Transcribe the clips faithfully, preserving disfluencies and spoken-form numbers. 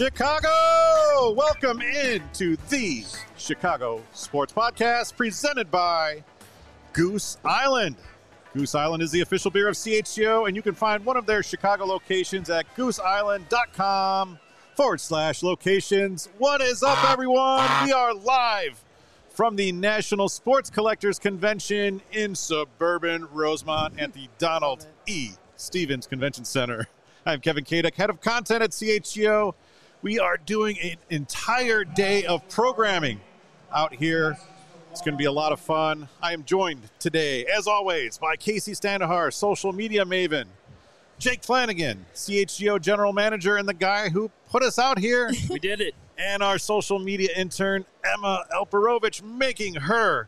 Chicago! Welcome into the Chicago Sports Podcast presented by Goose Island. Goose Island is the official beer of C H G O, and you can find one of their Chicago locations at gooseisland.com forward slash locations. What is up, everyone? We are live from the National Sports Collectors Convention in suburban Rosemont at the Donald E. Stevens Convention Center. I'm Kevin Kadek, head of content at C H G O. We are doing an entire day of programming out here. It's going to be a lot of fun. I am joined today, as always, by Casey Standahar, social media maven, Jake Flanagan, C H G O general manager, and the guy who put us out here. We did it. And our social media intern, Emma Elperovich, making her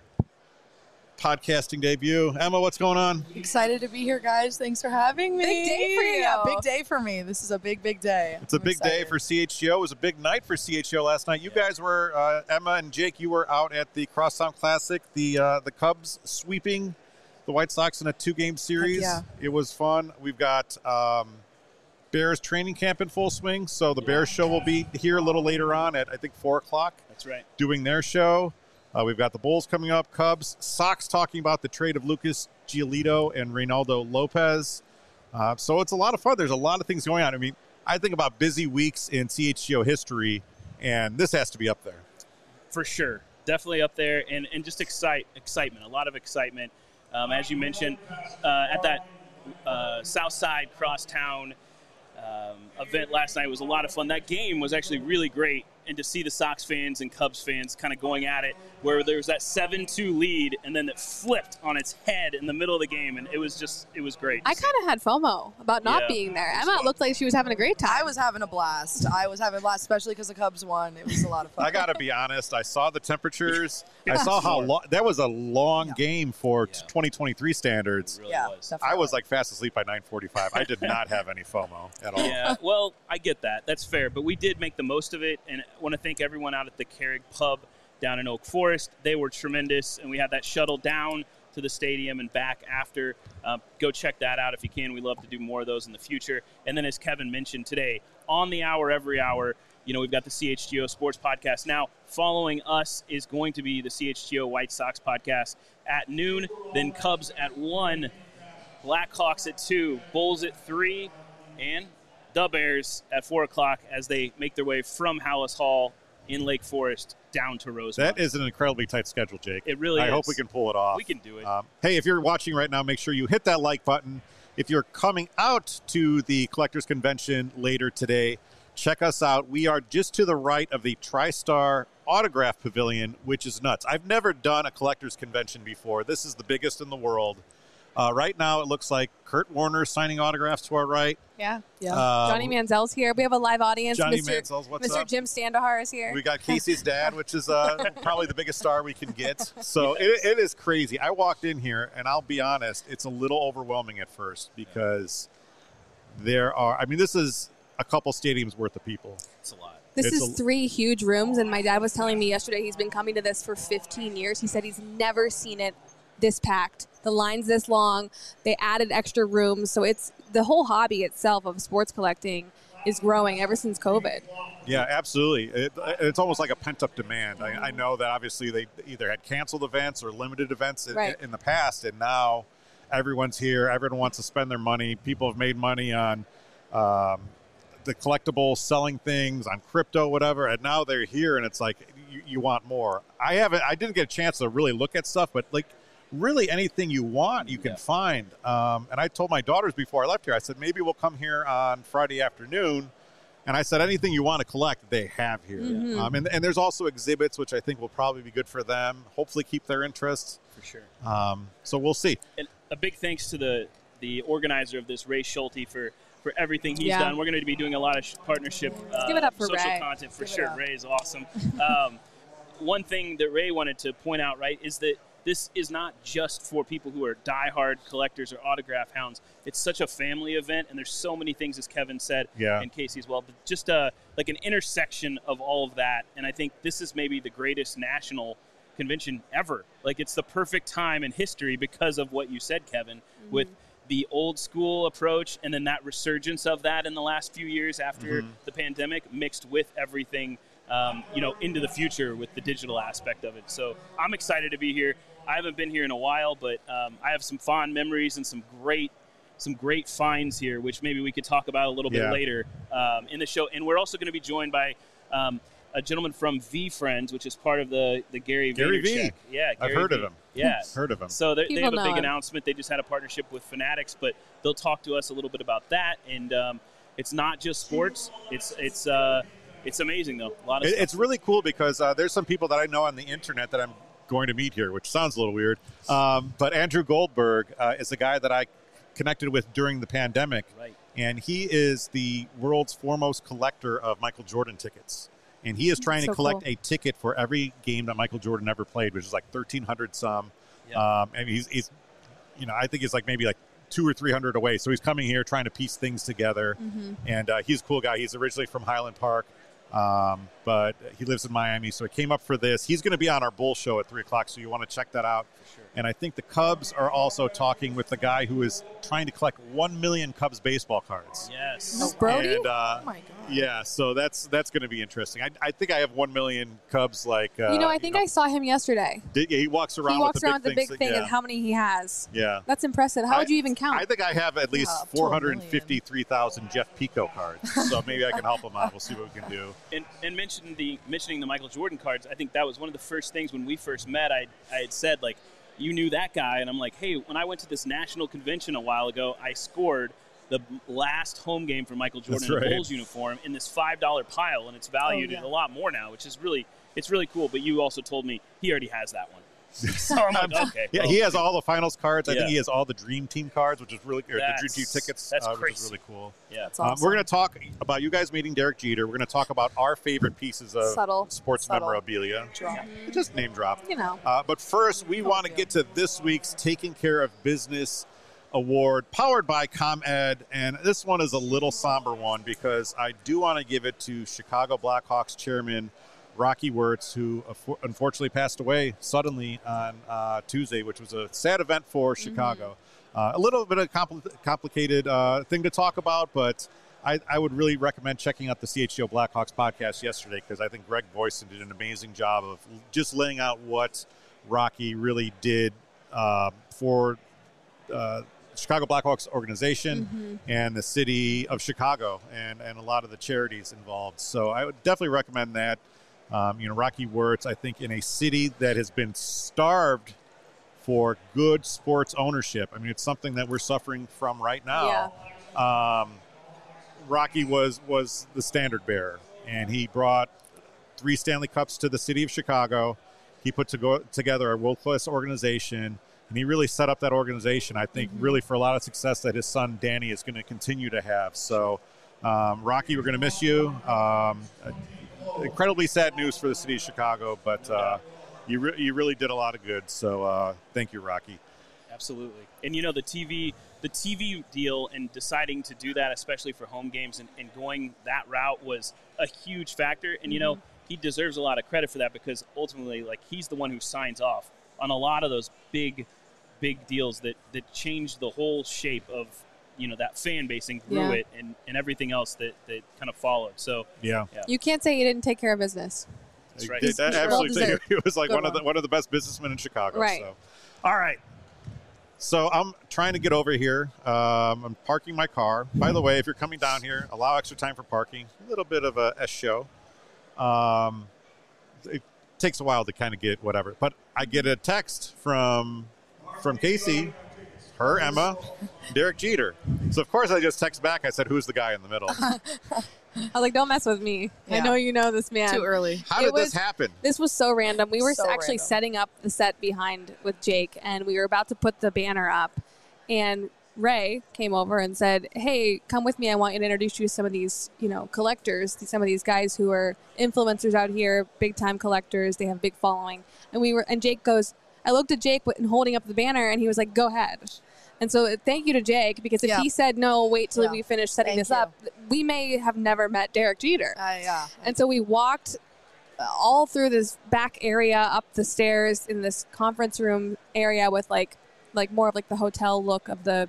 podcasting debut. Emma, what's going on? Excited to be here, guys. Thanks for having me. Big day for you. Yeah, big day for me. This is a big, big day. It's a I'm big excited. day for C H G O. It was a big night for C H G O last night. You Yeah. guys were, uh, Emma and Jake, you were out at the Crosstown Classic, the uh, the Cubs sweeping the White Sox in a two-game series. yeah. It was fun. We've got um, Bears training camp in full swing, so the Bears show will be here a little later on at, I think, four o'clock. That's right. Doing their show. Uh, we've got the Bulls coming up, Cubs, Sox talking about the trade of Lucas Giolito and Reynaldo Lopez. Uh, so it's a lot of fun. There's a lot of things going on. I mean, I think about busy weeks in C H G O history, and this has to be up there. For sure. Definitely up there, and, and just excite excitement, a lot of excitement. Um, as you mentioned, uh, at that uh, Southside Crosstown um, event last night was a lot of fun. That game was actually really great, and to see the Sox fans and Cubs fans kind of going at it, where there was that seven two lead, and then it flipped on its head in the middle of the game, and it was just, it was great. I kind of had FOMO about not Yeah, being there. it was Emma fun. looked like she was having a great time. I was having a blast. I was having a blast, especially because the Cubs won. It was a lot of fun. I got to be honest. I saw the temperatures. I Yeah. saw how long – that was a long Yeah. game for Yeah. twenty twenty-three standards. It really yeah, was. definitely. I was like fast asleep by nine forty-five. I did not have any FOMO at all. Yeah, well, I get that. That's fair. But we did make the most of it, and I want to thank everyone out at the Carrig Pub down in Oak Forest. They were tremendous, and we had that shuttle down to the stadium and back after. Um, go check that out if you can. We'd love to do more of those in the future. And then as Kevin mentioned today, on the hour, every hour, you know, we've got the C H G O Sports Podcast. Now, following us is going to be the C H G O White Sox Podcast at noon, then Cubs at one, Blackhawks at two, Bulls at three, and the Bears at four o'clock as they make their way from Hallis Hall in Lake Forest down to Rosemont. That is an incredibly tight schedule, Jake. It really I is. hope we can pull it off. We can do it. Um, hey, if you're watching right now, make sure you hit that like button. If you're coming out to the Collectors Convention later today, check us out. We are just to the right of the TriStar Autograph Pavilion, which is nuts. I've never done a Collectors Convention before. This is the biggest in the world. Uh, right now, it looks like Kurt Warner signing autographs to our right. yeah. Yeah. Um, Johnny Manziel's here. We have a live audience. Johnny Mister Manziel's, what's Mister up? Jim Standahar is here. We got Casey's dad, which is uh, probably the biggest star we can get. So it, it is crazy. I walked in here, and I'll be honest, it's a little overwhelming at first because there are, I mean, this is a couple stadiums worth of people. It's a lot. This It's is a- three huge rooms, and my dad was telling me yesterday he's been coming to this for fifteen years. He said he's never seen it this packed. The line's this long. They added extra rooms. So it's the whole hobby itself of sports collecting is growing ever since COVID. Yeah, absolutely. It, it's almost like a pent-up demand. I, I know that obviously they either had canceled events or limited events in, Right. in the past, and now everyone's here. Everyone wants to spend their money. People have made money on um, the collectibles, selling things, on crypto, whatever, and now they're here, and it's like you, you want more. I haven't. I didn't get a chance to really look at stuff, but like really anything you want, you can Yeah. find. Um, and I told my daughters before I left here, I said, maybe we'll come here on Friday afternoon. And I said, anything you want to collect, they have here. Mhm. Um, and, and there's also exhibits, which I think will probably be good for them, hopefully keep their interest. For sure. Um, so we'll see. And a big thanks to the the organizer of this, Ray Schulte, for, for everything he's Yeah. done. We're going to be doing a lot of sh- partnership uh, give it up for social Ray. content for Give it sure. up. Ray is awesome. um, one thing that Ray wanted to point out, right, is that this is not just for people who are diehard collectors or autograph hounds. It's such a family event, and there's so many things, as Kevin said, Yeah. and Casey as well, but just uh, like an intersection of all of that. And I think this is maybe the greatest national convention ever. Like, it's the perfect time in history because of what you said, Kevin, Mm-hmm. with the old school approach and then that resurgence of that in the last few years after Mhm. the pandemic mixed with everything, um, you know, into the future with the digital aspect of it. So I'm excited to be here. I haven't been here in a while, but um, I have some fond memories and some great some great finds here, which maybe we could talk about a little bit Yeah. later um, in the show. And we're also going to be joined by um, a gentleman from V Friends, which is part of the, the Gary, Gary V. Vaynerchuk. Yeah, I've Gary heard V. of him. Yeah. Heard of him. So they, they People have a know big him. announcement. They just had a partnership with Fanatics, but they'll talk to us a little bit about that. And um, it's not just sports. It's it's uh, it's amazing though. A lot of It, stuff. it's really cool because uh, there's some people that I know on the internet that I'm going to meet here, which sounds a little weird. Um, but Andrew Goldberg uh, is a guy that I connected with during the pandemic, Right. and he is the world's foremost collector of Michael Jordan tickets. And he is trying So to collect cool. a ticket for every game that Michael Jordan ever played, which is like thirteen hundred some. Yeah. Um, and he's, he's, you know, I think he's like maybe like two or three hundred away. So he's coming here trying to piece things together. Mm-hmm. And uh, he's a cool guy. He's originally from Highland Park, um, but he lives in Miami. So he came up for this. He's going to be on our Bull show at three o'clock. So you want to check that out. For sure. And I think the Cubs are also talking with the guy who is trying to collect one million Cubs baseball cards. Yes. No Brody? And, uh, Oh my god. yeah, so that's that's going to be interesting. I, I think I have one million Cubs. Like uh, you know, I think I saw him yesterday. did, he walks around. He walks with the around big with the big things, thing yeah. and how many he has. yeah. That's impressive. How I- would you even count? I think I have at least Yeah, up to a four hundred fifty-three thousand Jeff Pico cards. So maybe I can help him out. We'll see what we can do. And, and mentioning the mentioning the Michael Jordan cards, I think that was one of the first things when we first met. I I had said like, you knew that guy, and I'm like, hey, when I went to this national convention a while ago, I scored the last home game for Michael Jordan That's in right. a Bulls uniform in this five dollar pile, and it's valued Oh, yeah. at a lot more now, which is really it's really cool. But you also told me he already has that one, so I'm like, okay, Yeah, well, he has all the finals cards. I Yeah. think he has all the Dream Team cards, which is really, or the Dream That's- Team tickets, that's uh, which is crazy. really cool. yeah. That's Um, awesome. we're going to talk about you guys meeting Derek Jeter. We're going to talk about our favorite pieces of Subtle. sports Subtle. memorabilia. Drop. Just name drop. You know. Uh, but first, we want to yeah. get to this week's Taking Care of Business Award, powered by ComEd. And this one is a little somber one because I do want to give it to Chicago Blackhawks chairman Rocky Wirtz, who uh, unfortunately passed away suddenly on uh, Tuesday, which was a sad event for Chicago. Uh, a little bit of a compl- complicated uh, thing to talk about, but I, I would really recommend checking out the C H G O Blackhawks podcast yesterday because I think Greg Boyson did an amazing job of just laying out what Rocky really did uh, for uh, Chicago Blackhawks organization Mhm. and the city of Chicago and, and a lot of the charities involved. So I would definitely recommend that. Um, you know, Rocky Wirtz, I think, in a city that has been starved for good sports ownership. I mean, it's something that we're suffering from right now. Um, Rocky was was the standard bearer, and he brought three Stanley Cups to the city of Chicago. He put to go, together a world-class organization, and he really set up that organization, I think, really for a lot of success that his son Danny is going to continue to have. So, um, Rocky, we're going to miss you. Um, incredibly sad news for the city of Chicago, but uh, you re- you really did a lot of good. So, uh, thank you, Rocky. Absolutely. And you know, the T V the T V deal and deciding to do that, especially for home games and, and going that route was a huge factor. And you know, he deserves a lot of credit for that because ultimately, like, he's the one who signs off on a lot of those big, big deals that, that changed the whole shape of, you know, that fan base and grew Yeah. it and, and everything else that, that kind of followed. So Yeah. You can't say he didn't take care of business. That's right. That, that Well absolutely, deserved. he was like Good one of the one. one of the best businessmen in Chicago. Right. So, all right. So I'm trying to get over here. Um, I'm parking my car. By the way, if you're coming down here, allow extra time for parking. A little bit of a S show. Um, it takes a while to kind of get whatever, but I get a text from from Casey, her, Emma, Derek Jeter. So of course I just text back. I said, "Who's the guy in the middle?" I was like, don't mess with me. I Yeah. know you know this man. Too early. How It did was- this happen? This was so random. We were So actually random. setting up the set behind with Jake, and we were about to put the banner up. And Ray came over and said, "Hey, come with me. I want you to introduce you to some of these, you know, collectors. Some of these guys who are influencers out here, big time collectors. They have big following." And we were, and Jake goes, I looked at Jake and holding up the banner, and he was like, "Go ahead." And so thank you to Jake, because if Yeah. he said no, wait till Yeah. we finish setting Thank this you. up, we may have never met Derek Jeter. Uh, yeah. And so we walked all through this back area, up the stairs in this conference room area with like, like more of like the hotel look of the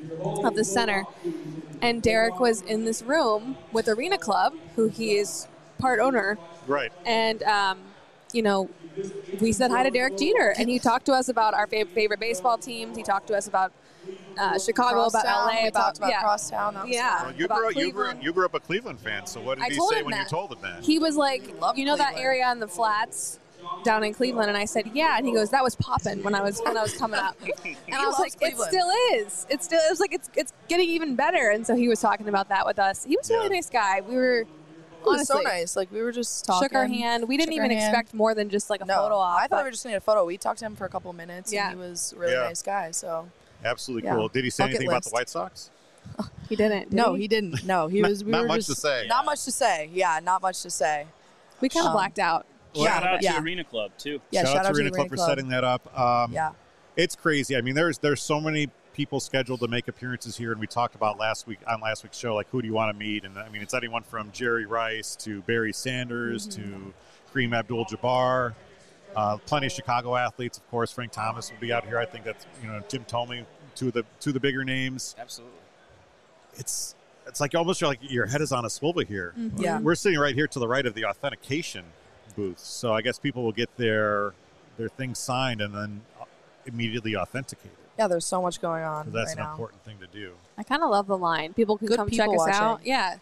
of the center. And Derek was in this room with Arena Club, who he is part owner. Right. And, um, you know, we said hi to Derek Jeter, and he talked to us about our fav- favorite baseball teams. He talked to us about uh, Chicago, about Crosstown, L A, we about, talked about yeah. Crosstown. That was Yeah. fun. Well, you, about grew, you, grew, Cleveland. you grew up a Cleveland fan, so what did I he told say him when that. you told him that? He was like, Love you know that Cleveland. area on the flats down in Cleveland? And I said, yeah. And he goes, that was popping when I was when I was coming up. And I was loves like, Cleveland. it still is. It still it was like it's it's getting even better. And so he was talking about that with us. He was a really Yeah. nice guy. We were It was so honestly nice. Like, we were just talking. shook our hand. We didn't shook our even hand. expect more than just like a No, photo op. I thought but we were just going to get a photo. We talked to him for a couple of minutes, Yeah. and he was a really Yeah. nice guy. So Absolutely Yeah. cool. Did he say Bucket anything about the list. White Sox? he didn't. did no, he? he didn't. No, he Not- was. We not were much just, to say. Not much to say. Yeah, not much to say. We kind of Um, blacked out. Well, Shout out yeah. to Arena Club too. Yeah, shout, out to Arena the Club for setting that up. Um, Yeah. It's crazy. I mean, there's there's so many people scheduled to make appearances here, and we talked about last week on last week's show, like who do you want to meet? And I mean, it's anyone from Jerry Rice to Barry Sanders Mm-hmm. to Kareem Abdul-Jabbar. Uh, plenty of Chicago athletes, of course. Frank Thomas will be out here. I think that's you know Jim Thome, two of the two of the bigger names. Absolutely. It's it's like almost like your head is on a swivel here. Yeah. We're sitting right here to the right of the authentication booth, so I guess people will get their their things signed and then immediately authenticated. Yeah, there's so much going on 'Cause that's right an now. important thing to do. I kind of love the line. People can Good come check people us out. watching. Yeah.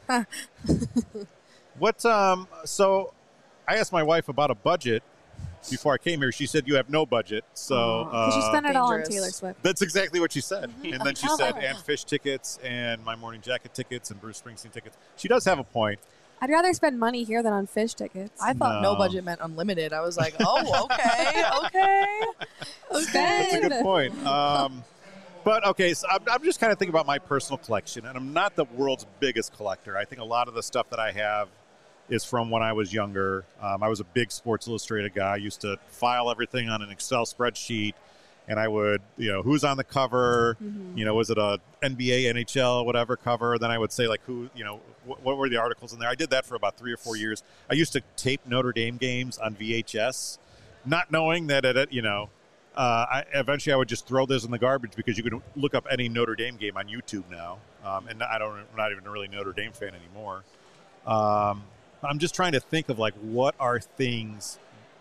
What? Um. So, I asked my wife about a budget before I came here. She said you have no budget. So Because you uh, spend it all on dangerous. Taylor Swift. that's exactly what she said. And then she Oh, said, wow. and fish tickets, and my morning jacket tickets, and Bruce Springsteen tickets. She does have a point. I'd rather spend money here than on fish tickets. I thought no. No. budget meant unlimited. I was like, oh, okay, okay, That's okay. a good point. Um, but okay, so I'm, I'm just kind of thinking about my personal collection, and I'm not the world's biggest collector. I think a lot of the stuff that I have is from when I was younger. Um, I was a big Sports Illustrated guy. I used to file everything on an Excel spreadsheet, and I would, you know, who's on the cover, Mm-hmm. you know, was it a N B A, N H L, whatever cover? Then I would say, like, who, you know, wh- what were the articles in there? I did that for about three or four years. I used to tape Notre Dame games on V H S, not knowing that, it, you know, uh, I, eventually I would just throw those in the garbage because you could look up any Notre Dame game on YouTube now. Um, and I don't, I'm not even a really Notre Dame fan anymore. Um, I'm just trying to think of, like, what are things,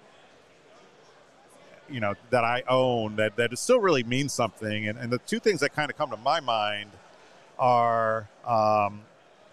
you know, that I own that, that it still really means something. And, and the two things that kind of come to my mind are, um,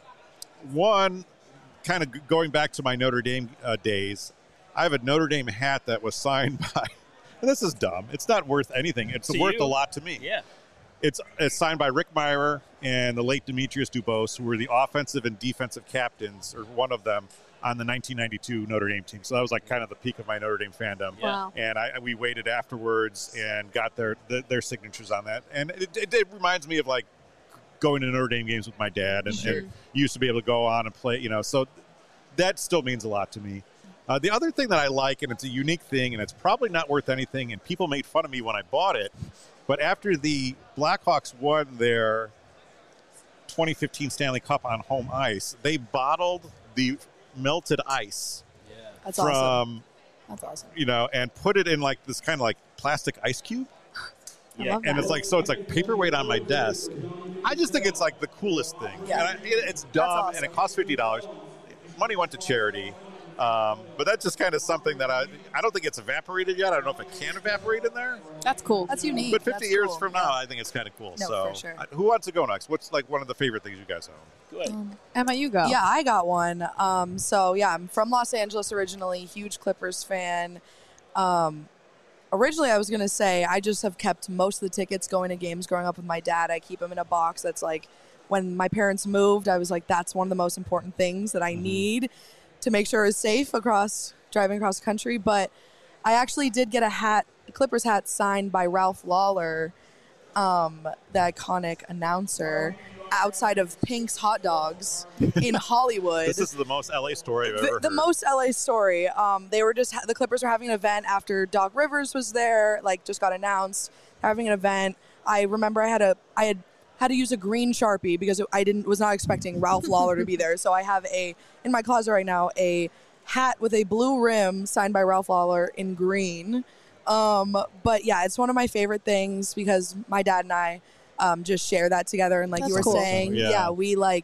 one, kind of g- going back to my Notre Dame uh, days, I have a Notre Dame hat that was signed by, and this is dumb. It's not worth anything. It's To worth you. a lot to me. Yeah. It's, it's signed by Rick Meyer and the late Demetrius Dubose, who were the offensive and defensive captains, or one of them, on the nineteen ninety-two Notre Dame team. So that was like kind of the peak of my Notre Dame fandom. Yeah. Wow. And I, we waited afterwards and got their their, their signatures on that. And it, it, it reminds me of like going to Notre Dame games with my dad, and, Sure. and used to be able to go on and play. You know, so that still means a lot to me. Uh, the other thing that I like, and it's a unique thing, and it's probably not worth anything, and people made fun of me when I bought it, but after the Blackhawks won their twenty fifteen Stanley Cup on home ice, they bottled the melted ice That's from, awesome. That's awesome. you know, and put it in like this kind of like plastic ice cube. I Yeah. love And that. it's like, so it's like paperweight on my desk. I just think it's like the coolest thing. Yeah. And I, it- it's dumb, awesome. and it costs fifty dollars. Money went to charity. Um, but that's just kind of something that I I don't think it's evaporated yet. I don't know if it can evaporate in there. That's cool. That's unique. But fifty That's years cool. from now, I think it's kind of cool. No, so for sure. I- who wants to go next? What's like one of the favorite things you guys own? Go ahead. Emma, you go. Yeah, I got one. Um, so yeah, I'm from Los Angeles originally, huge Clippers fan. Um, originally, I was gonna say I just have kept most of the tickets going to games growing up with my dad. I keep them in a box that's like, when my parents moved, I was like, that's one of the most important things that I need to make sure it's safe across driving across the country. But I actually did get a hat, a Clippers hat signed by Ralph Lawler, um, the iconic announcer, outside of Pink's Hot Dogs in Hollywood. This is the most L A story I've ever the, heard. the most L A story. Um, they were just the Clippers were having an event after Doc Rivers was there. Like, just got announced having an event. I remember I had a I had had to use a green Sharpie because I didn't was not expecting Ralph Lawler to be there. So I have a in my closet right now a hat with a blue rim signed by Ralph Lawler in green. Um, but yeah, it's one of my favorite things because my dad and I um, just share that together. And like That's you were cool. saying, Yeah. yeah, we like,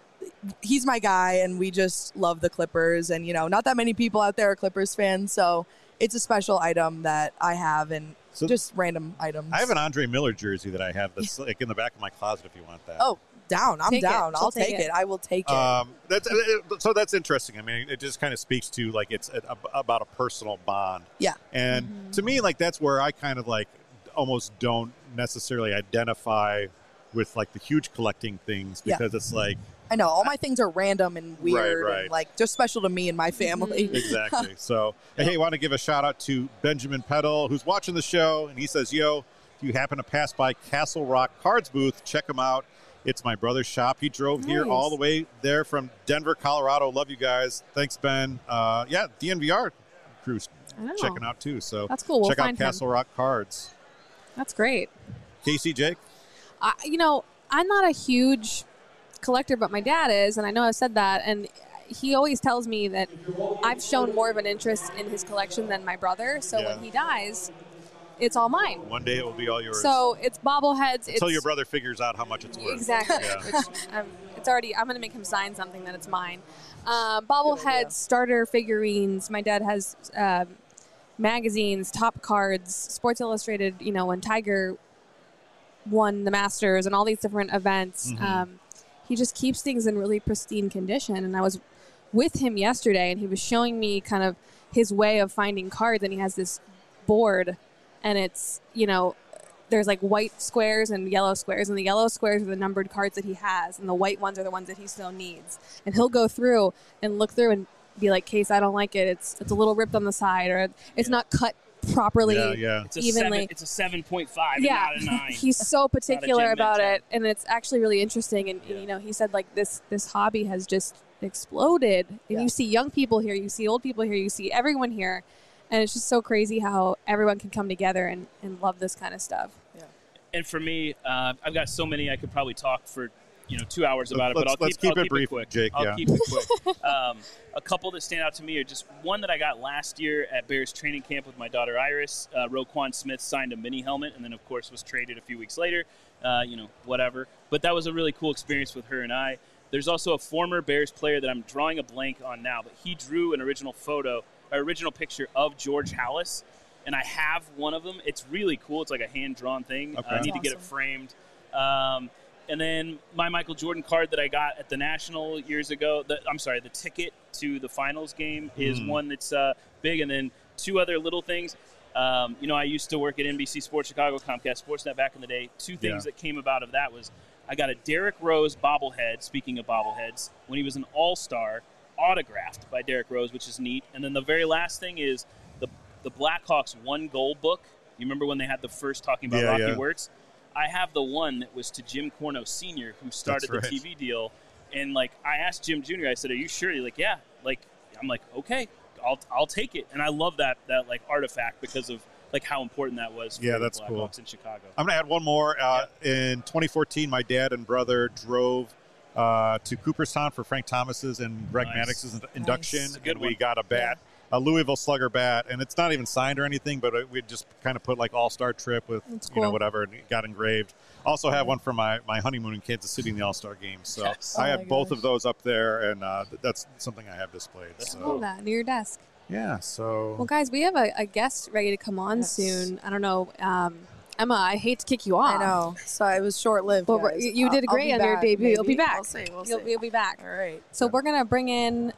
he's my guy and we just love the Clippers. And, you know, not that many people out there are Clippers fans. So it's a special item that I have and So just random items. I have an Andre Miller jersey that I have that's like in the back of my closet if you want that. Oh, down. I'm Take it. down. She'll I'll take take it. it. I will take it. Um, that's it, so that's interesting. I mean, it just kind of speaks to like it's a, about a personal bond. Yeah. And Mm-hmm. to me, like that's where I kind of like almost don't necessarily identify with like the huge collecting things Yeah. because it's like I know. All my things are random and weird right. and like just special to me and my family. exactly. So hey, I want to give a shout out to Benjamin Peddle who's watching the show, and he says, "Yo, if you happen to pass by Castle Rock Cards booth, check him out. It's my brother's shop. He drove here Nice. all the way there from Denver, Colorado. Love you guys. Thanks, Ben. Uh, yeah, D N V R crew's I know. checking out too. So That's cool. We'll check out find him. Castle Rock Cards. That's great. Casey, Jake. I, you know, I'm not a huge collector, but my dad is, and I know I've said that, and he always tells me that I've shown more of an interest in his collection than my brother. So Yeah. when he dies, it's all mine. One day it will be all yours. So it's bobbleheads. Until it's, your brother figures out how much it's worth. Exactly. Yeah. Which um, it's already. I'm going to make him sign something that it's mine. Um, idea. bobbleheads, starter figurines. My dad has um, magazines, top cards, Sports Illustrated. You know, when Tiger won the Masters and all these different events. Mhm. Um, he just keeps things in really pristine condition. And I was with him yesterday, and he was showing me kind of his way of finding cards. And he has this board, and it's, you know, there's like white squares and yellow squares, and the yellow squares are the numbered cards that he has, and the white ones are the ones that he still needs. And he'll go through and look through and be like, "Case, I don't like it. It's it's a little ripped on the side, or it's not cut properly." Yeah, yeah. It's a Evenly. seven. It's a seven point five, Yeah, and not a nine. he's so particular Gen about ten. it, and it's actually really interesting. And, and, you know, he said like this this hobby has just exploded, and Yeah. you see young people here, you see old people here, you see everyone here, and it's just so crazy how everyone can come together and, and love this kind of stuff. And for me, uh, I've got so many I could probably talk for you know two hours about it. But Let's- I'll let's keep, keep I'll it keep brief, it quick. Jake, I'll yeah. keep it quick. um, a couple that stand out to me are just one that I got last year at Bears training camp with my daughter Iris. Uh, Roquan Smith signed a mini helmet, and then of course was traded a few weeks later. Uh, you know, whatever. But that was a really cool experience with her and I. There's also a former Bears player that I'm drawing a blank on now, but he drew an original photo, or original picture of George Halas. And I have one of them. It's really cool. It's like a hand-drawn thing. Okay. I need That's to get it awesome. framed. Um, and then my Michael Jordan card that I got at the National years ago. The, I'm sorry, the ticket to the finals game is Mm. one that's uh, big. And then two other little things. Um, you know, I used to work at N B C Sports Chicago, Comcast Sportsnet back in the day. Two things Yeah. that came about of that was I got a Derrick Rose bobblehead, speaking of bobbleheads, when he was an all-star, autographed by Derrick Rose, which is neat. And then the very last thing is the the Blackhawks one goal book. You remember when they had the first talking about Yeah, Rocky yeah. Wirtz? I have the one that was to Jim Corno Senior, who started That's the right. T V deal. And like I asked Jim Junior, I said, "Are you sure?" He's like, "Yeah." Like I'm like, "Okay, I'll I'll take it." And I love that that like artifact because of like how important that was for Yeah, the that's Blackhawks cool. in Chicago. I'm going to add one more. Uh, In twenty fourteen, my dad and brother drove uh, to Cooperstown for Frank Thomas's and Greg Nice. Maddox's induction. That's a good and we one. got a bat, a Louisville Slugger bat, and it's not even signed or anything, but we just kind of put like All-Star Trip with, That's you know, cool. whatever, and it got engraved. Also have one for my, my honeymoon in Kansas City in the All-Star game. So Yes. I Oh have my both gosh. of those up there, and uh, th- that's something I have displayed. That's So, Love that near your desk. yeah, so Well, guys, we have a, a guest ready to come on Yes. soon. I don't know, um, Emma. I hate to kick you off. I know. So it was short lived. But we're- you did great on your debut. You'll be back. We'll see. We'll You'll, see. you'll be back. All right. So we're gonna bring in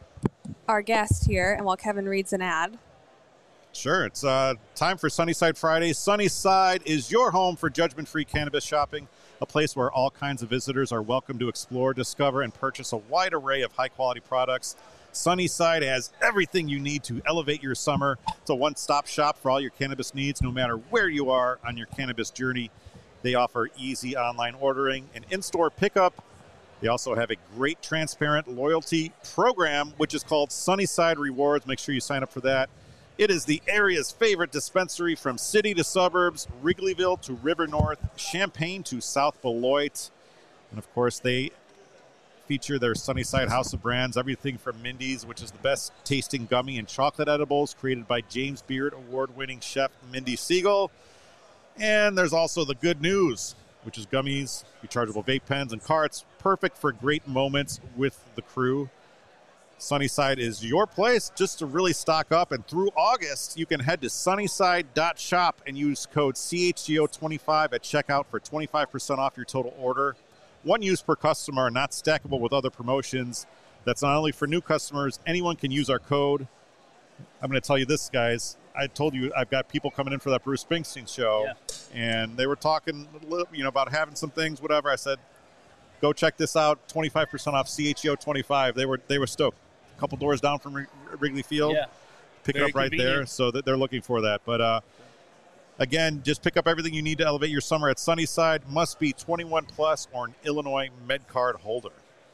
our guest here, and while Kevin reads an ad. Sure. It's uh, time for Sunnyside Fridays. Sunnyside is your home for judgment-free cannabis shopping, a place where all kinds of visitors are welcome to explore, discover, and purchase a wide array of high-quality products. Sunnyside has everything you need to elevate your summer. It's a one-stop shop for all your cannabis needs, no matter where you are on your cannabis journey. They offer easy online ordering and in-store pickup. They also have a great transparent loyalty program, which is called Sunnyside Rewards. Make sure you sign up for that. It is the area's favorite dispensary from city to suburbs, Wrigleyville to River North, Champaign to South Beloit. And of course, they feature their Sunnyside House of Brands, everything from Mindy's, which is the best tasting gummy and chocolate edibles created by James Beard award-winning chef Mindy Siegel. And there's also the good news. which is gummies, rechargeable vape pens, and carts. Perfect for great moments with the crew. Sunnyside is your place just to really stock up. And through August, you can head to sunnyside dot shop and use code C H G O twenty-five at checkout for twenty-five percent off your total order. One use per customer, not stackable with other promotions. That's not only for new customers. Anyone can use our code. I'm going to tell you this, guys. I told you I've got people coming in for that Bruce Springsteen show, Yeah. and they were talking a little, you know, about having some things, whatever. I said, go check this out, twenty-five percent off C H G O twenty-five. They were they were stoked. A couple doors down from Wrigley Field. Yeah. Pick it Very up right convenient. there, so that they're looking for that. But uh, again, just pick up everything you need to elevate your summer at Sunnyside. Must be twenty-one plus or an Illinois Med Card holder.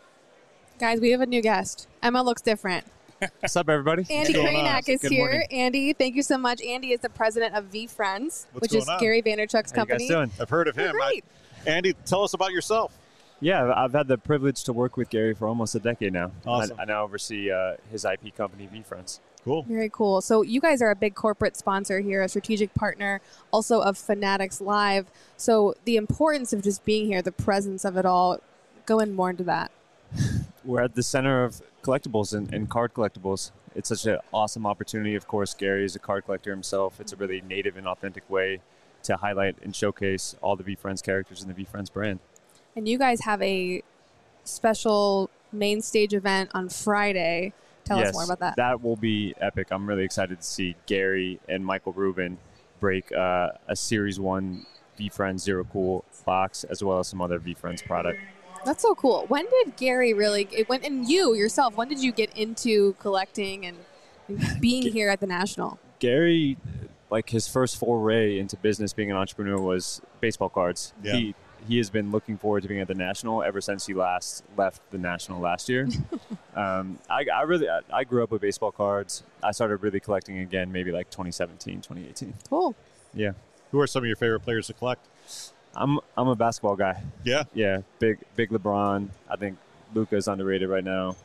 Guys, we have a new guest. Emma looks different. What's up, everybody? Andy going on? Krainak is Good here. morning. Andy, thank you so much. Andy is the president of V Friends, What's which going is on? Gary Vaynerchuk's How you company. guys doing? I've heard of You're him. I- great. Andy, tell us about yourself. Yeah, I've had the privilege to work with Gary for almost a decade now. Awesome. I, I now oversee uh, his I P company, V Friends. Cool. Very cool. So you guys are a big corporate sponsor here, a strategic partner, also of Fanatics Live. So the importance of just being here, the presence of it all, go in more into that. We're at the center of collectibles and, and card collectibles. It's such an awesome opportunity. Of course, Gary is a card collector himself. It's a really native and authentic way to highlight and showcase all the V Friends characters in the V Friends brand. And you guys have a special main stage event on Friday. Tell yes, us more about that. That will be epic. I'm really excited to see Gary and Michael Rubin break uh, a Series one V Friends Zero Cool box, as well as some other V Friends product. That's so cool. When did Gary really, it went, and you yourself, when did you get into collecting and and being here at the National? Gary, like his first foray into business, being an entrepreneur, was baseball cards. Yeah. He he has been looking forward to being at the National ever since he last left the National last year. um, I, I really I, I grew up with baseball cards. I started really collecting again maybe like twenty seventeen, twenty eighteen. Cool. Yeah, Who are some of your favorite players to collect? I'm I'm a basketball guy. Yeah. Yeah, big big LeBron. I think Luka's underrated right now.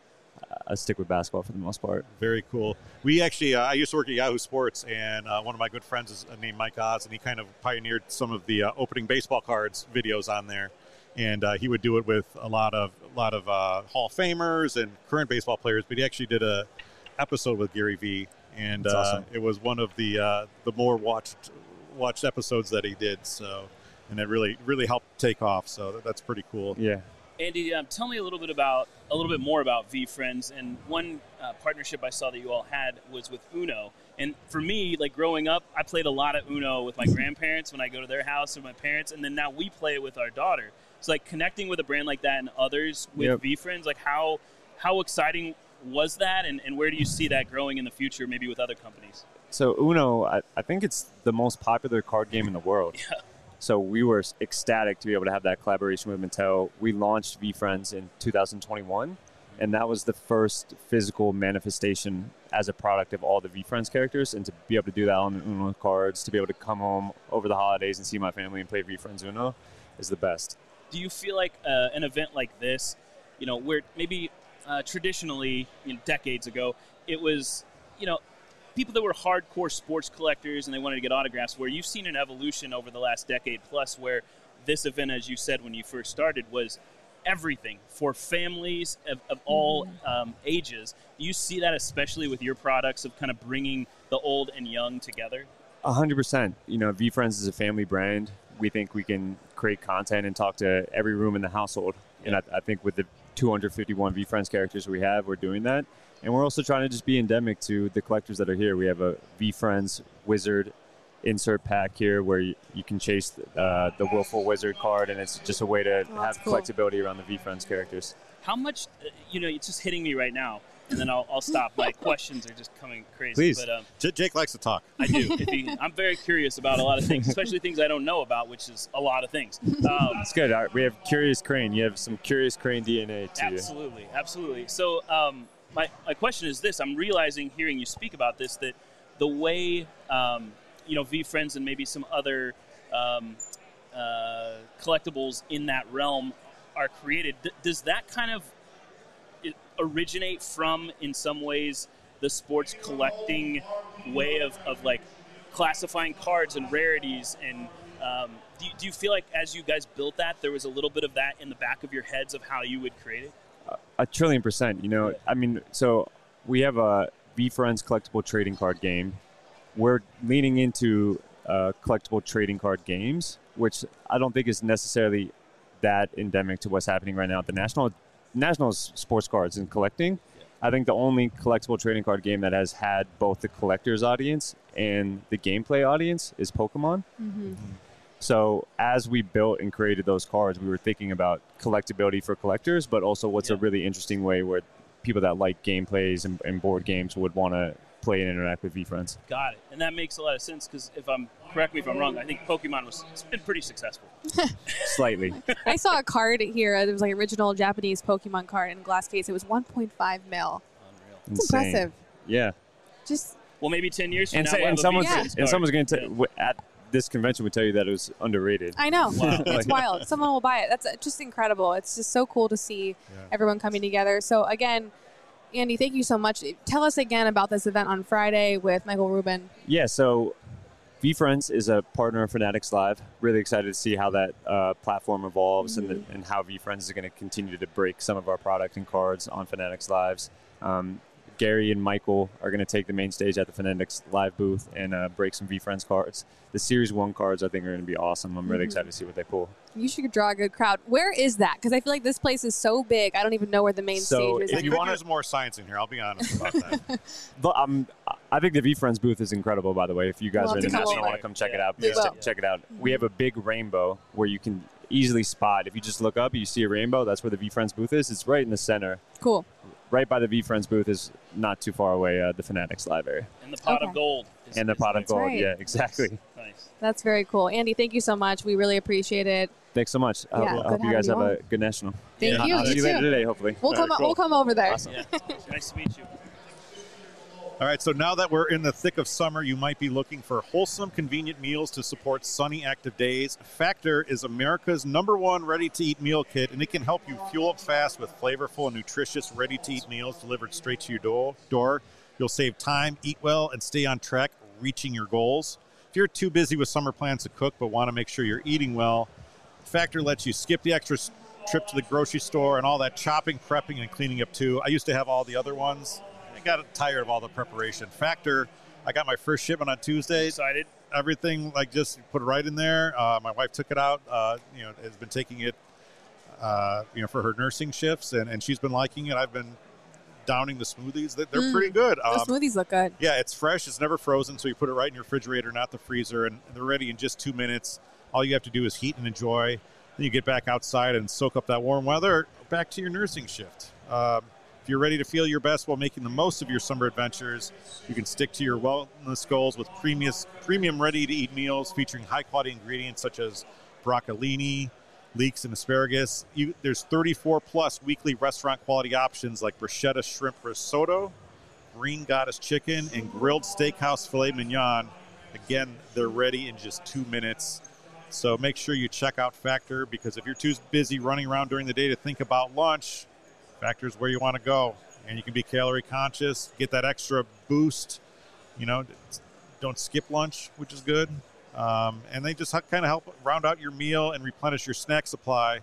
I stick with basketball for the most part. Very cool. We actually, uh, I used to work at Yahoo Sports, and uh, one of my good friends is uh, named Mike Oz, and he kind of pioneered some of the uh, opening baseball cards videos on there. And uh, he would do it with a lot of a lot of uh, Hall of Famers and current baseball players. But he actually did a episode with Gary Vee, and That's uh, awesome. it was one of the uh, the more watched watched episodes that he did. So, and it really really helped take off. So that, that's pretty cool. Yeah. Andy, um, tell me a little bit about a little bit more about V Friends. And one uh, partnership I saw that you all had was with Uno. And for me, like growing up, I played a lot of Uno with my grandparents when I go to their house or my parents, and then now we play it with our daughter. So like connecting with a brand like that and others with Yep. V Friends, like how how exciting was that, and, and where do you see that growing in the future, maybe with other companies? So Uno, I, I think it's the most popular card game in the world. Yeah. So we were ecstatic to be able to have that collaboration with Mattel. We launched V Friends in two thousand twenty-one, and that was the first physical manifestation as a product of all the V Friends characters. And to be able to do that on the Uno cards, to be able to come home over the holidays and see my family and play V Friends Uno is the best. Do you feel like uh, an event like this, you know, where maybe uh, traditionally, you know, decades ago, it was, you know, people that were hardcore sports collectors and they wanted to get autographs, where you've seen an evolution over the last decade plus where this event, as you said when you first started, was everything for families of, of all um, ages. Do you see that especially with your products of kind of bringing the old and young together? A hundred percent. You know, V Friends is a family brand. We think we can create content and talk to every room in the household. And I, I think with the two hundred fifty-one V Friends characters we have, we're doing that. And we're also trying to just be endemic to the collectors that are here. We have a V Friends Wizard insert pack here where you, you can chase uh, the Willful Wizard card, and it's just a way to Oh, have that's cool. collectability around the V Friends characters. How much, uh, you know, it's just hitting me right now, and then I'll, I'll stop. My questions are just coming crazy. Please. But um, J- Jake likes to talk. I do. If you, I'm very curious about a lot of things, especially things I don't know about, which is a lot of things. Um, It's good. All right, we have Curious Crane. You have some Curious Crane D N A to you. absolutely, absolutely. So um, my, my question is this. I'm realizing, hearing you speak about this, that the way, um, you know, V Friends and maybe some other um, uh, collectibles in that realm are created, d- does that kind of it originate from, in some ways, the sports collecting way of, of like classifying cards and rarities and Um, do, you, do you feel like as you guys built that, there was a little bit of that in the back of your heads of how you would create it? Uh, a trillion percent. You know, I mean, so we have a VeeFriends collectible trading card game. We're leaning into uh, collectible trading card games, which I don't think is necessarily that endemic to what's happening right now at the National. National's sports cards and collecting. I think the only collectible trading card game that has had both the collector's audience and the gameplay audience is Pokemon. Mm-hmm. So as we built and created those cards, we were thinking about collectability for collectors, but also what's Yeah. a really interesting way where people that like gameplays and, and board games would want to play and interact with VeeFriends. Got it. And that makes a lot of sense because if I'm, correct me if I'm wrong, I think Pokemon was, it's been pretty successful. Slightly. I saw a card here. There was like original Japanese Pokemon card in a glass case. It was one point five mil. Unreal. It's Insane. impressive. Yeah. Just Well, maybe ten years from And, now, so, we'll and have a someone's, VeeFriends and card. someone's going to, Yeah. at this convention, would tell you that it was underrated. I know. Wow. It's wild. Someone will buy it. That's uh, just incredible. It's just so cool to see Yeah. everyone coming together. So again, Andy, thank you so much. Tell us again about this event on Friday with Michael Rubin. Yeah, so VeeFriends is a partner of Fanatics Live. Really excited to see how that uh, platform evolves Mm-hmm. and, the, and how VeeFriends is going to continue to break some of our product and cards on Fanatics Lives. Um, Gary and Michael are going to take the main stage at the Fanatics Live booth and uh, break some VeeFriends cards. The Series one cards, I think, are going to be awesome. I'm really Mm-hmm. excited to see what they pull. You should draw a good crowd. Where is that? Because I feel like this place is so big. I don't even know where the main So stage is. if If you anymore. want, there's more science in here. I'll be honest about that. But, um, I think the VeeFriends booth is incredible, by the way. If you guys We'll are have in to come National and want over. to come check it Yeah. out, We please will. check, check it out. We have a big rainbow where you can easily spot. If you just look up, you see a rainbow. That's where the VeeFriends booth is. It's right in the center. Cool. Right by the VeeFriends booth is not too far away, uh, the Fanatics Live area. And the pot Okay. of gold. is- And the is pot of nice. gold. right. Yeah, exactly. Nice. That's very cool. Andy, thank you so much. We really appreciate it. Thanks so much. I Yeah, hope- I good hope you guys having have you a good national. Thank Yeah. you. I'll see you You later too. today, hopefully. We'll come. cool. We'll come over there. Awesome. Yeah. Nice to meet you. All right, so now that we're in the thick of summer, you might be looking for wholesome, convenient meals to support sunny, active days. Factor is America's number one ready-to-eat meal kit, and it can help you fuel up fast with flavorful and nutritious ready-to-eat meals delivered straight to your door. door. You'll save time, eat well, and stay on track reaching your goals. If you're too busy with summer plans to cook but want to make sure you're eating well, Factor lets you skip the extra s- trip to the grocery store and all that chopping, prepping, and cleaning up too. I used to have all the other ones. I got tired of all the preparation. Factor, I got my first shipment on Tuesday. Excited? Everything, like, just put it right in there. Uh, my wife took it out, uh, you know, has been taking it, uh, you know, for her nursing shifts, and, and she's been liking it. I've been downing the smoothies. They- They're Mm. pretty good. The Um, smoothies look good. yeah, it's fresh. It's never frozen, so you put it right in your refrigerator, not the freezer, and they're ready in just two minutes. All you have to do is heat and enjoy. Then you get back outside and soak up that warm weather, back to your nursing shift. Um, if you're ready to feel your best while making the most of your summer adventures, you can stick to your wellness goals with premium, premium ready-to-eat meals featuring high-quality ingredients such as broccolini, leeks, and asparagus. You, there's thirty-four plus weekly restaurant-quality options like bruschetta shrimp risotto, Green Goddess chicken, and grilled steakhouse filet mignon. Again, they're ready in just two minutes. So make sure you check out Factor, because if you're too busy running around during the day to think about lunch, Factor's where you want to go. And you can be calorie conscious, get that extra boost. You know, don't skip lunch, which is good. Um, and they just kind of help round out your meal and replenish your snack supply,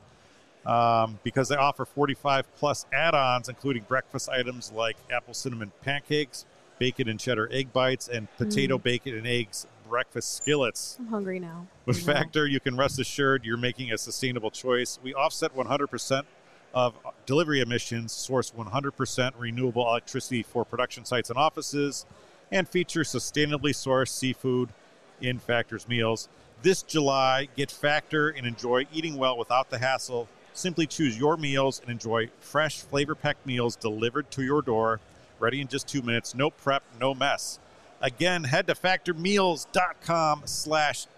um, because they offer forty-five plus add-ons, including breakfast items like apple cinnamon pancakes, bacon and cheddar egg bites, and potato, bacon, and eggs breakfast skillets. I'm hungry now. With I know. Factor, you can rest assured you're making a sustainable choice. We offset one hundred percent of delivery emissions, source one hundred percent renewable electricity for production sites and offices, and feature sustainably sourced seafood in Factor's meals. This July, get Factor and enjoy eating well without the hassle. Simply choose your meals and enjoy fresh, flavor-packed meals delivered to your door, ready in just two minutes. No prep, no mess. Again, head to factormeals.com slash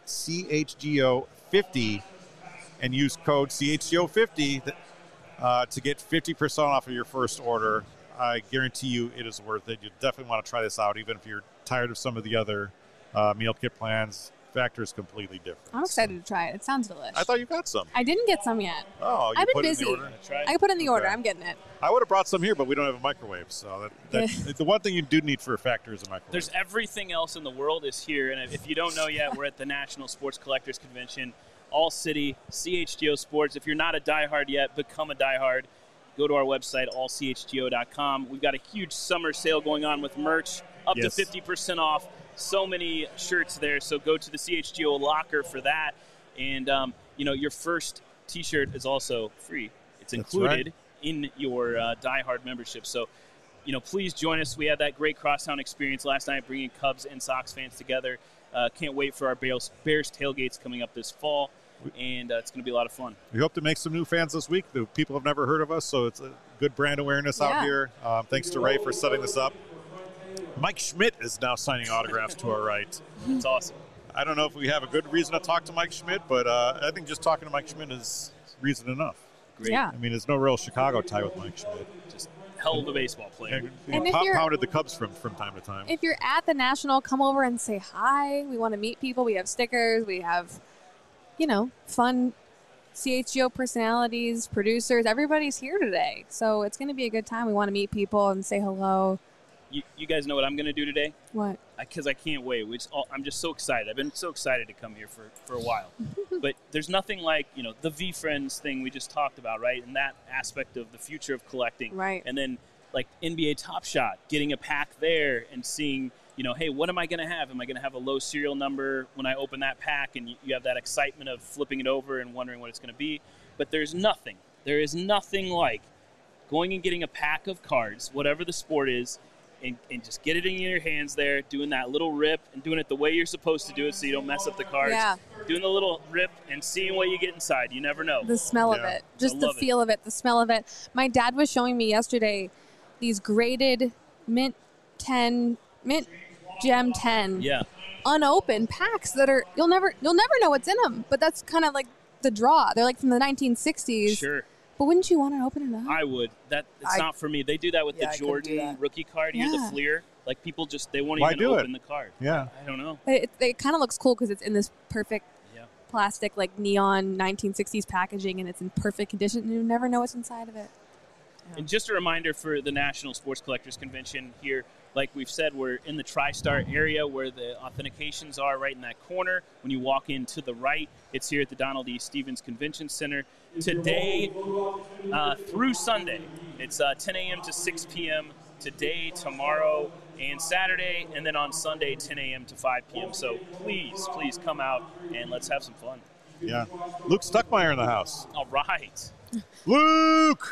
CHGO50 and use code C H G O fifty uh, to get fifty percent off of your first order. I guarantee you it is worth it. You definitely want to try this out, even if you're tired of some of the other uh, meal kit plans. Factor is completely different. I'm excited to try it. It sounds delicious. I thought you got some. I didn't get some yet. Oh, you I've been put busy. it in the order? Try it. I put in the order. Okay. I'm getting it. I would have brought some here, but we don't have a microwave. So that, that, the one thing you do need for a Factor is a microwave. There's everything else in the world is here, and if you don't know yet, we're at the National Sports Collectors Convention, All City, C H G O Sports. If you're not a diehard yet, become a diehard. Go to our website, all c h g o dot com. We've got a huge summer sale going on with merch, up Yes. to fifty percent off. So many shirts there, so go to the C H G O locker for that. And, um, you know, your first T-shirt is also free. It's That's included right. in your uh, diehard membership. So, you know, please join us. We had that great crosstown experience last night, bringing Cubs and Sox fans together. Uh, can't wait for our Bears, Bears tailgates coming up this fall, and uh, it's going to be a lot of fun. We hope to make some new fans this week. The people have never heard of us, so it's a good brand awareness out Yeah. here. Um, thanks to Ray for setting this up. Mike Schmidt is now signing autographs to our right. It's awesome. I don't know if we have a good reason to talk to Mike Schmidt, but uh, I think just talking to Mike Schmidt is reason enough. Great. Yeah. I mean, there's no real Chicago tie with Mike Schmidt. Just hell of a baseball player. And And he if pop- you're- pounded the Cubs from, from time to time. If you're at the National, come over and say hi. We want to meet people. We have stickers. We have, you know, fun C H G O personalities, producers. Everybody's here today. So it's going to be a good time. We want to meet people and say hello. You, you guys know what I'm going to do today? What? Because I, I can't wait. We just, all, I'm just so excited. I've been so excited to come here for, for a while. But there's nothing like, you know, the V-Friends thing we just talked about, right? And that aspect of the future of collecting. Right. And then, like, N B A Top Shot, getting a pack there and seeing, you know, hey, what am I going to have? Am I going to have a low serial number when I open that pack? And you, you have that excitement of flipping it over and wondering what it's going to be. But there's nothing. There is nothing like going and getting a pack of cards, whatever the sport is, and, and just get it in your hands there, doing that little rip and doing it the way you're supposed to do it so you don't mess up the cards. Yeah. Doing the little rip and seeing what you get inside. You never know. The smell of Yeah. it. Just I the love it. feel of it, the smell of it. My dad was showing me yesterday these graded mint ten, mint gem ten Yeah. unopened packs that are you'll never you'll never know what's in them. But that's kind of like the draw. They're like from the nineteen sixties. Sure. But wouldn't you want to open it up? I would. That It's I- not for me. They do that with Yeah, I the couldn't do Jordan that. rookie card here, Yeah. the Fleer. Like, people just, they won't Why even do it? open the card. Yeah. I don't know. But it, it kind of looks cool because it's in this perfect Yeah. plastic, like neon nineteen sixties packaging, and it's in perfect condition. And you never know what's inside of it. And just a reminder for the National Sports Collectors Convention here, like we've said, we're in the TriStar area where the authentications are, right in that corner. When you walk in to the right, it's here at the Donald E. Stevens Convention Center. Today uh, through Sunday, it's uh, ten a.m. to six p.m. today, tomorrow, and Saturday, and then on Sunday, ten a.m. to five p.m. So please, please come out and let's have some fun. Yeah. Luke Stuckmeyer in the house. All right. Luke!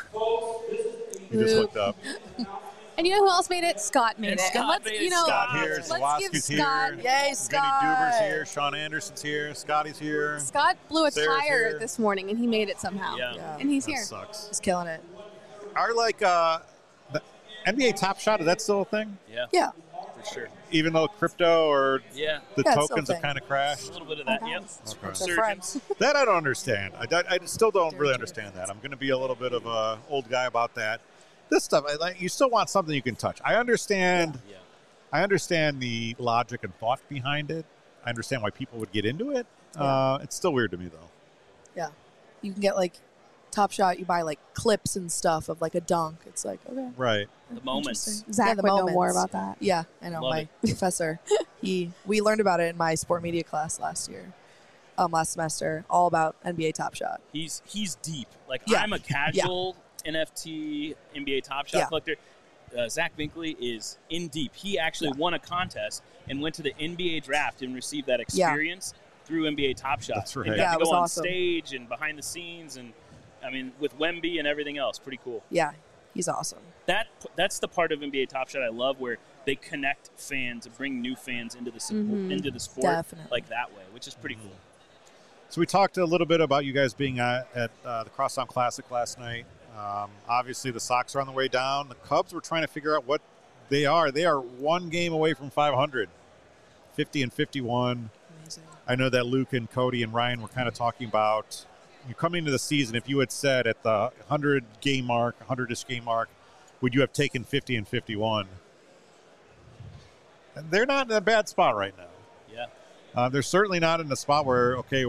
He just Luke. looked up. And you know who else made it? Scott made And it. Scott and let's, made it. you know, Scott here, let's give Zawadzki's Scott. here. Yay, Vinny Scott. Duber's here. Sean Anderson's here. Scotty's here. Scott blew a Sarah's tire here. this morning, and he made it somehow. Yeah. Yeah. And he's That here. sucks. He's killing it. Are like uh, the N B A Top Shot, is that still a thing? Yeah, Yeah. for sure. Even though crypto or Yeah, the Yeah, it's still a tokens have thing. kind of a crashed? little bit of that. Okay. Yep. Okay. They're Resurgence. friends. That I don't understand. I, I, I still don't really understand that. I'm going to be a little bit of a old guy about that. This stuff, I, like, you still want something you can touch. I understand. Yeah. I understand the logic and thought behind it. I understand why people would get into it. Uh, it's still weird to me, though. Yeah. You can get like Top Shot, you buy like clips and stuff of like a dunk. It's like, okay. Right. The moments. Interesting. Zach Yeah, the would know more moments. about that. Yeah, I know. Love my it. professor, he we learned about it in my sport media class last year, um, last semester, all about N B A Top Shot. He's he's deep. Like, Yeah. I'm a casual N F T N B A Top Shot Yeah. collector. Uh, Zach Binkley is in deep. He actually Yeah. won a contest and went to the N B A draft and received that Yeah. experience through N B A Top Shot. That's right. And Yeah, got it to was go on awesome. stage and behind the scenes, and I mean, with Wemby and everything else. Pretty cool. Yeah, he's awesome. That that's the part of N B A Top Shot I love, where they connect fans and bring new fans into the support, Mhm. into the sport Definitely. like that way, which is pretty cool. So we talked a little bit about you guys being at, at uh, the Crosstown Classic last night. Um, obviously, the Sox are on the way down. The Cubs were trying to figure out what they are. They are one game away from five hundred, fifty and fifty-one. Amazing. I know that Luke and Cody and Ryan were kind of talking about you coming into the season. If you had said at the one hundred game mark, one hundred-ish game mark, would you have taken fifty and fifty-one? And they're not in a bad spot right now. Yeah. Uh, they're certainly not in the spot where, okay,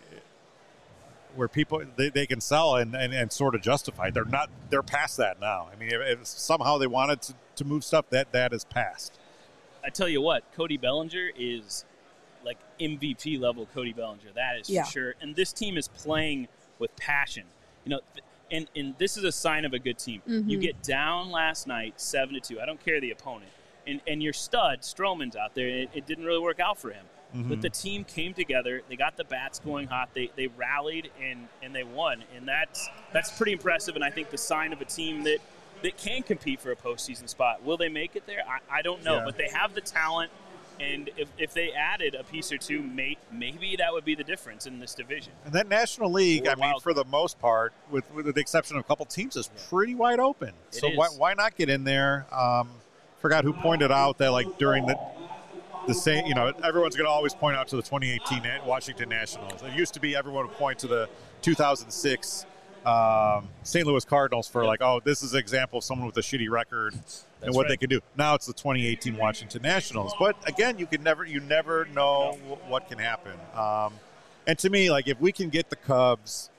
where people they, they can sell and, and, and sort of justify. They're not. They're past that now. I mean, if, if somehow they wanted to, to move stuff, that that is past. I tell you what, Cody Bellinger is like M V P level Cody Bellinger. That is Yeah. for sure. And this team is playing with passion. You know, th- and, and this is a sign of a good team. Mhm. You get down last night, seven to two. I don't care the opponent. And and your stud, Stroman's out there. It, it didn't really work out for him. Mm-hmm. But the team came together. They got the bats going hot. They they rallied and, and they won. And that's that's pretty impressive. And I think the sign of a team that, that can compete for a postseason spot. Will they make it there? I, I don't know. Yeah. But they have the talent. And if, if they added a piece or two, may, maybe that would be the difference in this division. And that National League, Or I mean, wild for the most part, with, with the exception of a couple teams, is pretty wide open. It so is. why, why not get in there? Um, forgot who pointed out that, like, during the the same, you know, everyone's going to always point out to the twenty eighteen Washington Nationals. It used to be everyone would point to the two thousand six um, Saint Louis Cardinals for, like, oh, this is an example of someone with a shitty record and what right. they can do. Now it's the twenty eighteen Washington Nationals. But again, you can never, you never know wh- what can happen. Um, and to me, like, if we can get the Cubs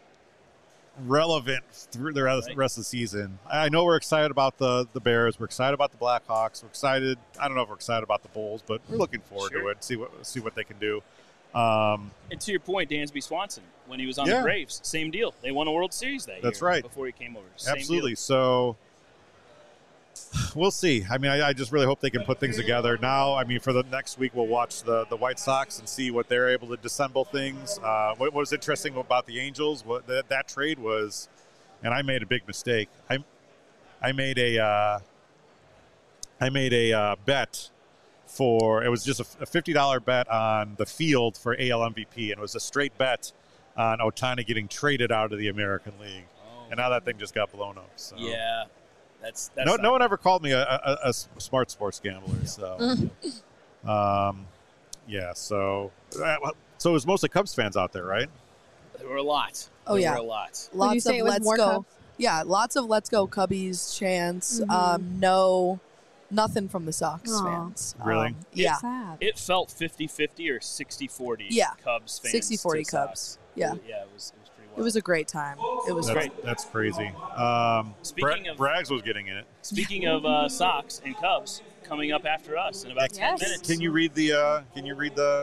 relevant through the rest, Right. rest of the season, I know we're excited about the the Bears. We're excited about the Blackhawks. We're excited. I don't know if we're excited about the Bulls, but we're looking forward Sure. to it. See what see what they can do. Um, And to your point, Dansby Swanson, when he was on Yeah. the Braves, same deal. They won a World Series that That's year right. before he came over. Same Absolutely. deal. So we'll see. I mean, I, I just really hope they can put things together. Now, I mean, for the next week, we'll watch the, the White Sox and see what they're able to dissemble things. Uh, what, what was interesting about the Angels, what that, that trade was, and I made a big mistake. I I made a uh, I made a uh, bet for, it was just a, a fifty dollars bet on the field for A L M V P, and it was a straight bet on Ohtani getting traded out of the American League. Oh. And now that thing just got blown up. So. Yeah. That's, that's No, not- no one ever called me a, a, a smart sports gambler. So, um, yeah. So, uh, well, so it was mostly Cubs fans out there, right? There were a lot. Oh, there yeah. were a lot. Would you Lots say of it was let's more go. Cubs? Yeah, lots of let's go Cubbies chants. Mhm. Um, no, nothing from the Sox Aw. fans. Really? Um, yeah, Sad. It felt fifty-fifty or sixty-forty Yeah. Cubs fans. sixty forty to Cubs. Sox. Yeah. Yeah, it was, it was pretty wild. it was a great time. It was That's, great. that's crazy. Um, Speaking Bra- of- Braggs was getting in it. Speaking of uh, Sox and Cubs coming up after us in about ten Yes. minutes. Can you read the? Uh, can you read the?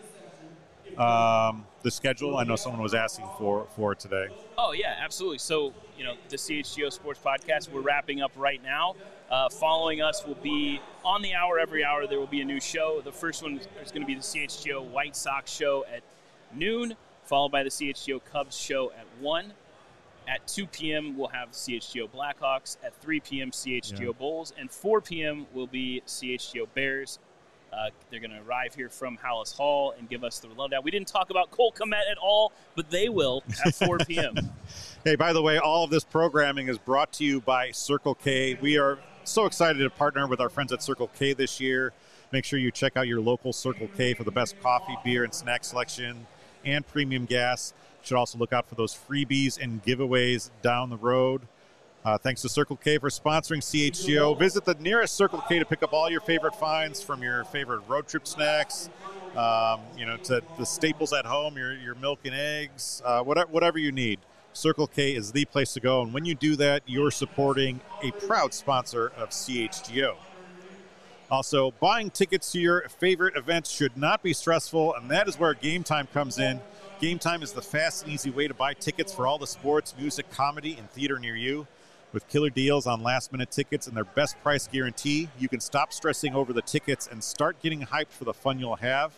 Um, the schedule. I know someone was asking for for it today. Oh, yeah, absolutely. So, you know, the C H G O Sports Podcast, we're wrapping up right now. Uh, following us will be on the hour, every hour, there will be a new show. The first one is going to be the C H G O White Sox show at noon, followed by the C H G O Cubs show at one. At two p.m., we'll have C H G O Blackhawks. At three p.m., C H G O Yeah. Bulls. And four p.m. will be C H G O Bears. Uh, they're going to arrive here from Hallis Hall and give us the lowdown. We didn't talk about Cole Kmet at all, but they will at four p.m. Hey, by the way, all of this programming is brought to you by Circle K. We are so excited to partner with our friends at Circle K this year. Make sure you check out your local Circle K for the best coffee, beer, and snack selection and premium gas. You should also look out for those freebies and giveaways down the road. Uh, thanks to Circle K for sponsoring C H G O. Visit the nearest Circle K to pick up all your favorite finds, from your favorite road trip snacks, um, you know, to the staples at home, your your milk and eggs, uh, whatever whatever you need. Circle K is the place to go, and when you do that, you're supporting a proud sponsor of C H G O. Also, buying tickets to your favorite events should not be stressful, and that is where Game Time comes in. Game Time is the fast and easy way to buy tickets for all the sports, music, comedy, and theater near you. With killer deals on last-minute tickets and their best price guarantee, you can stop stressing over the tickets and start getting hyped for the fun you'll have.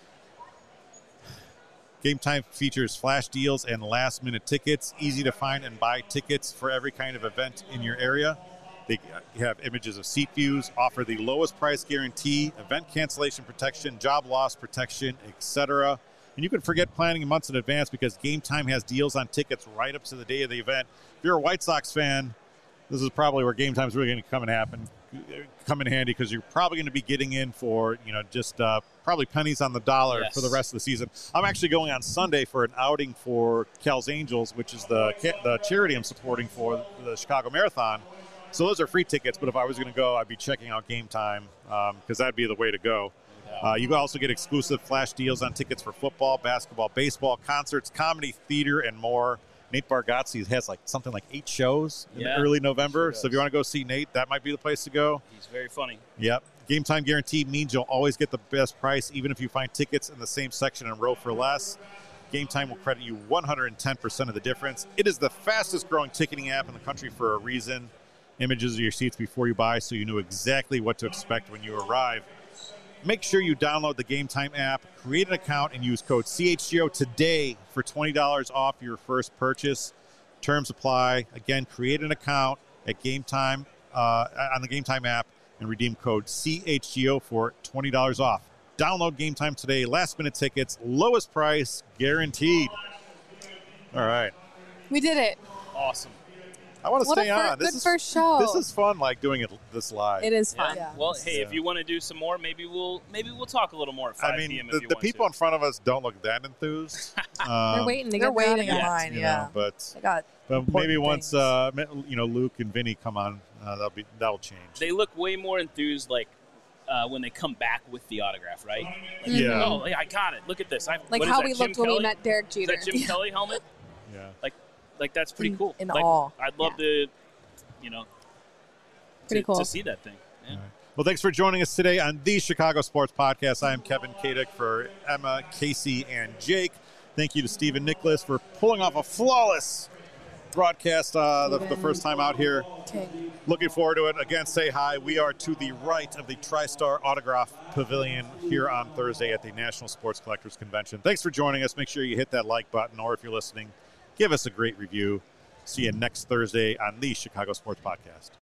Game Time features flash deals and last-minute tickets, easy to find and buy tickets for every kind of event in your area. They have images of seat views, offer the lowest price guarantee, event cancellation protection, job loss protection, et cetera. And you can forget planning months in advance because Game Time has deals on tickets right up to the day of the event. If you're a White Sox fan, this is probably where Game Time is really going to come and happen, come in handy, because you're probably going to be getting in for, you know, just uh, probably pennies on the dollar Yes. for the rest of the season. I'm actually going on Sunday for an outing for Cal's Angels, which is the the charity I'm supporting for the Chicago Marathon. So those are free tickets, but if I was going to go, I'd be checking out Game Time because um, that'd be the way to go. Uh, you also get exclusive flash deals on tickets for football, basketball, baseball, concerts, comedy, theater, and more. Nate Bargatze has like something like eight shows in Yeah, early November. sure So if you want to go see Nate, that might be the place to go. He's very funny. Yep. Game time guarantee means you'll always get the best price, even if you find tickets in the same section and row for less. Game Time will credit you one hundred ten percent of the difference. It is the fastest growing ticketing app in the country for a reason. Images of your seats before you buy, so you know exactly what to expect when you arrive. Make sure you download the Game Time app, create an account, and use code C H G O today for twenty dollars off your first purchase. Terms apply. Again, create an account at Game Time uh, on the Game Time app and redeem code C H G O for twenty dollars off. Download Game Time today. Last minute tickets, lowest price guaranteed. All right. We did it. Awesome. I want to What a stay fir- on. This good is first show. This is fun, like doing it this live. It is Yeah. fun. Yeah. Well, hey, Yeah. if you want to do some more, maybe we'll maybe we'll talk a little more at five I mean, p.m. the, if you the want people to. in front of us don't look that enthused. They're Um, waiting to They're get waiting in Yeah. line, you yeah. know, but They got but important maybe once things. uh, you know Luke and Vinny come on, uh, that'll be that'll change. They look way more enthused, like uh, when they come back with the autograph, right? Like, Yeah. Oh, yeah, I got it. Look at this. I, Like what is how that, we Jim looked when we Kelly? met Derek Is Jeter. that Jim Kelly helmet? Yeah. Like, like that's pretty In- cool. in like, awe. I'd love to, you know, Pretty to, cool. to see that thing. Yeah. Well, thanks for joining us today on the Chicago Sports Podcast. I am Kevin Kadick for Emma, Casey, and Jake. Thank you to Stephen Nicholas for pulling off a flawless broadcast uh, the, the first time out here. King. Looking forward to it. Again, say hi. We are to the right of the TriStar Autograph Pavilion here on Thursday at the National Sports Collectors Convention. Thanks for joining us. Make sure you hit that like button, or if you're listening, give us a great review. See you next Thursday on the Chicago Sports Podcast.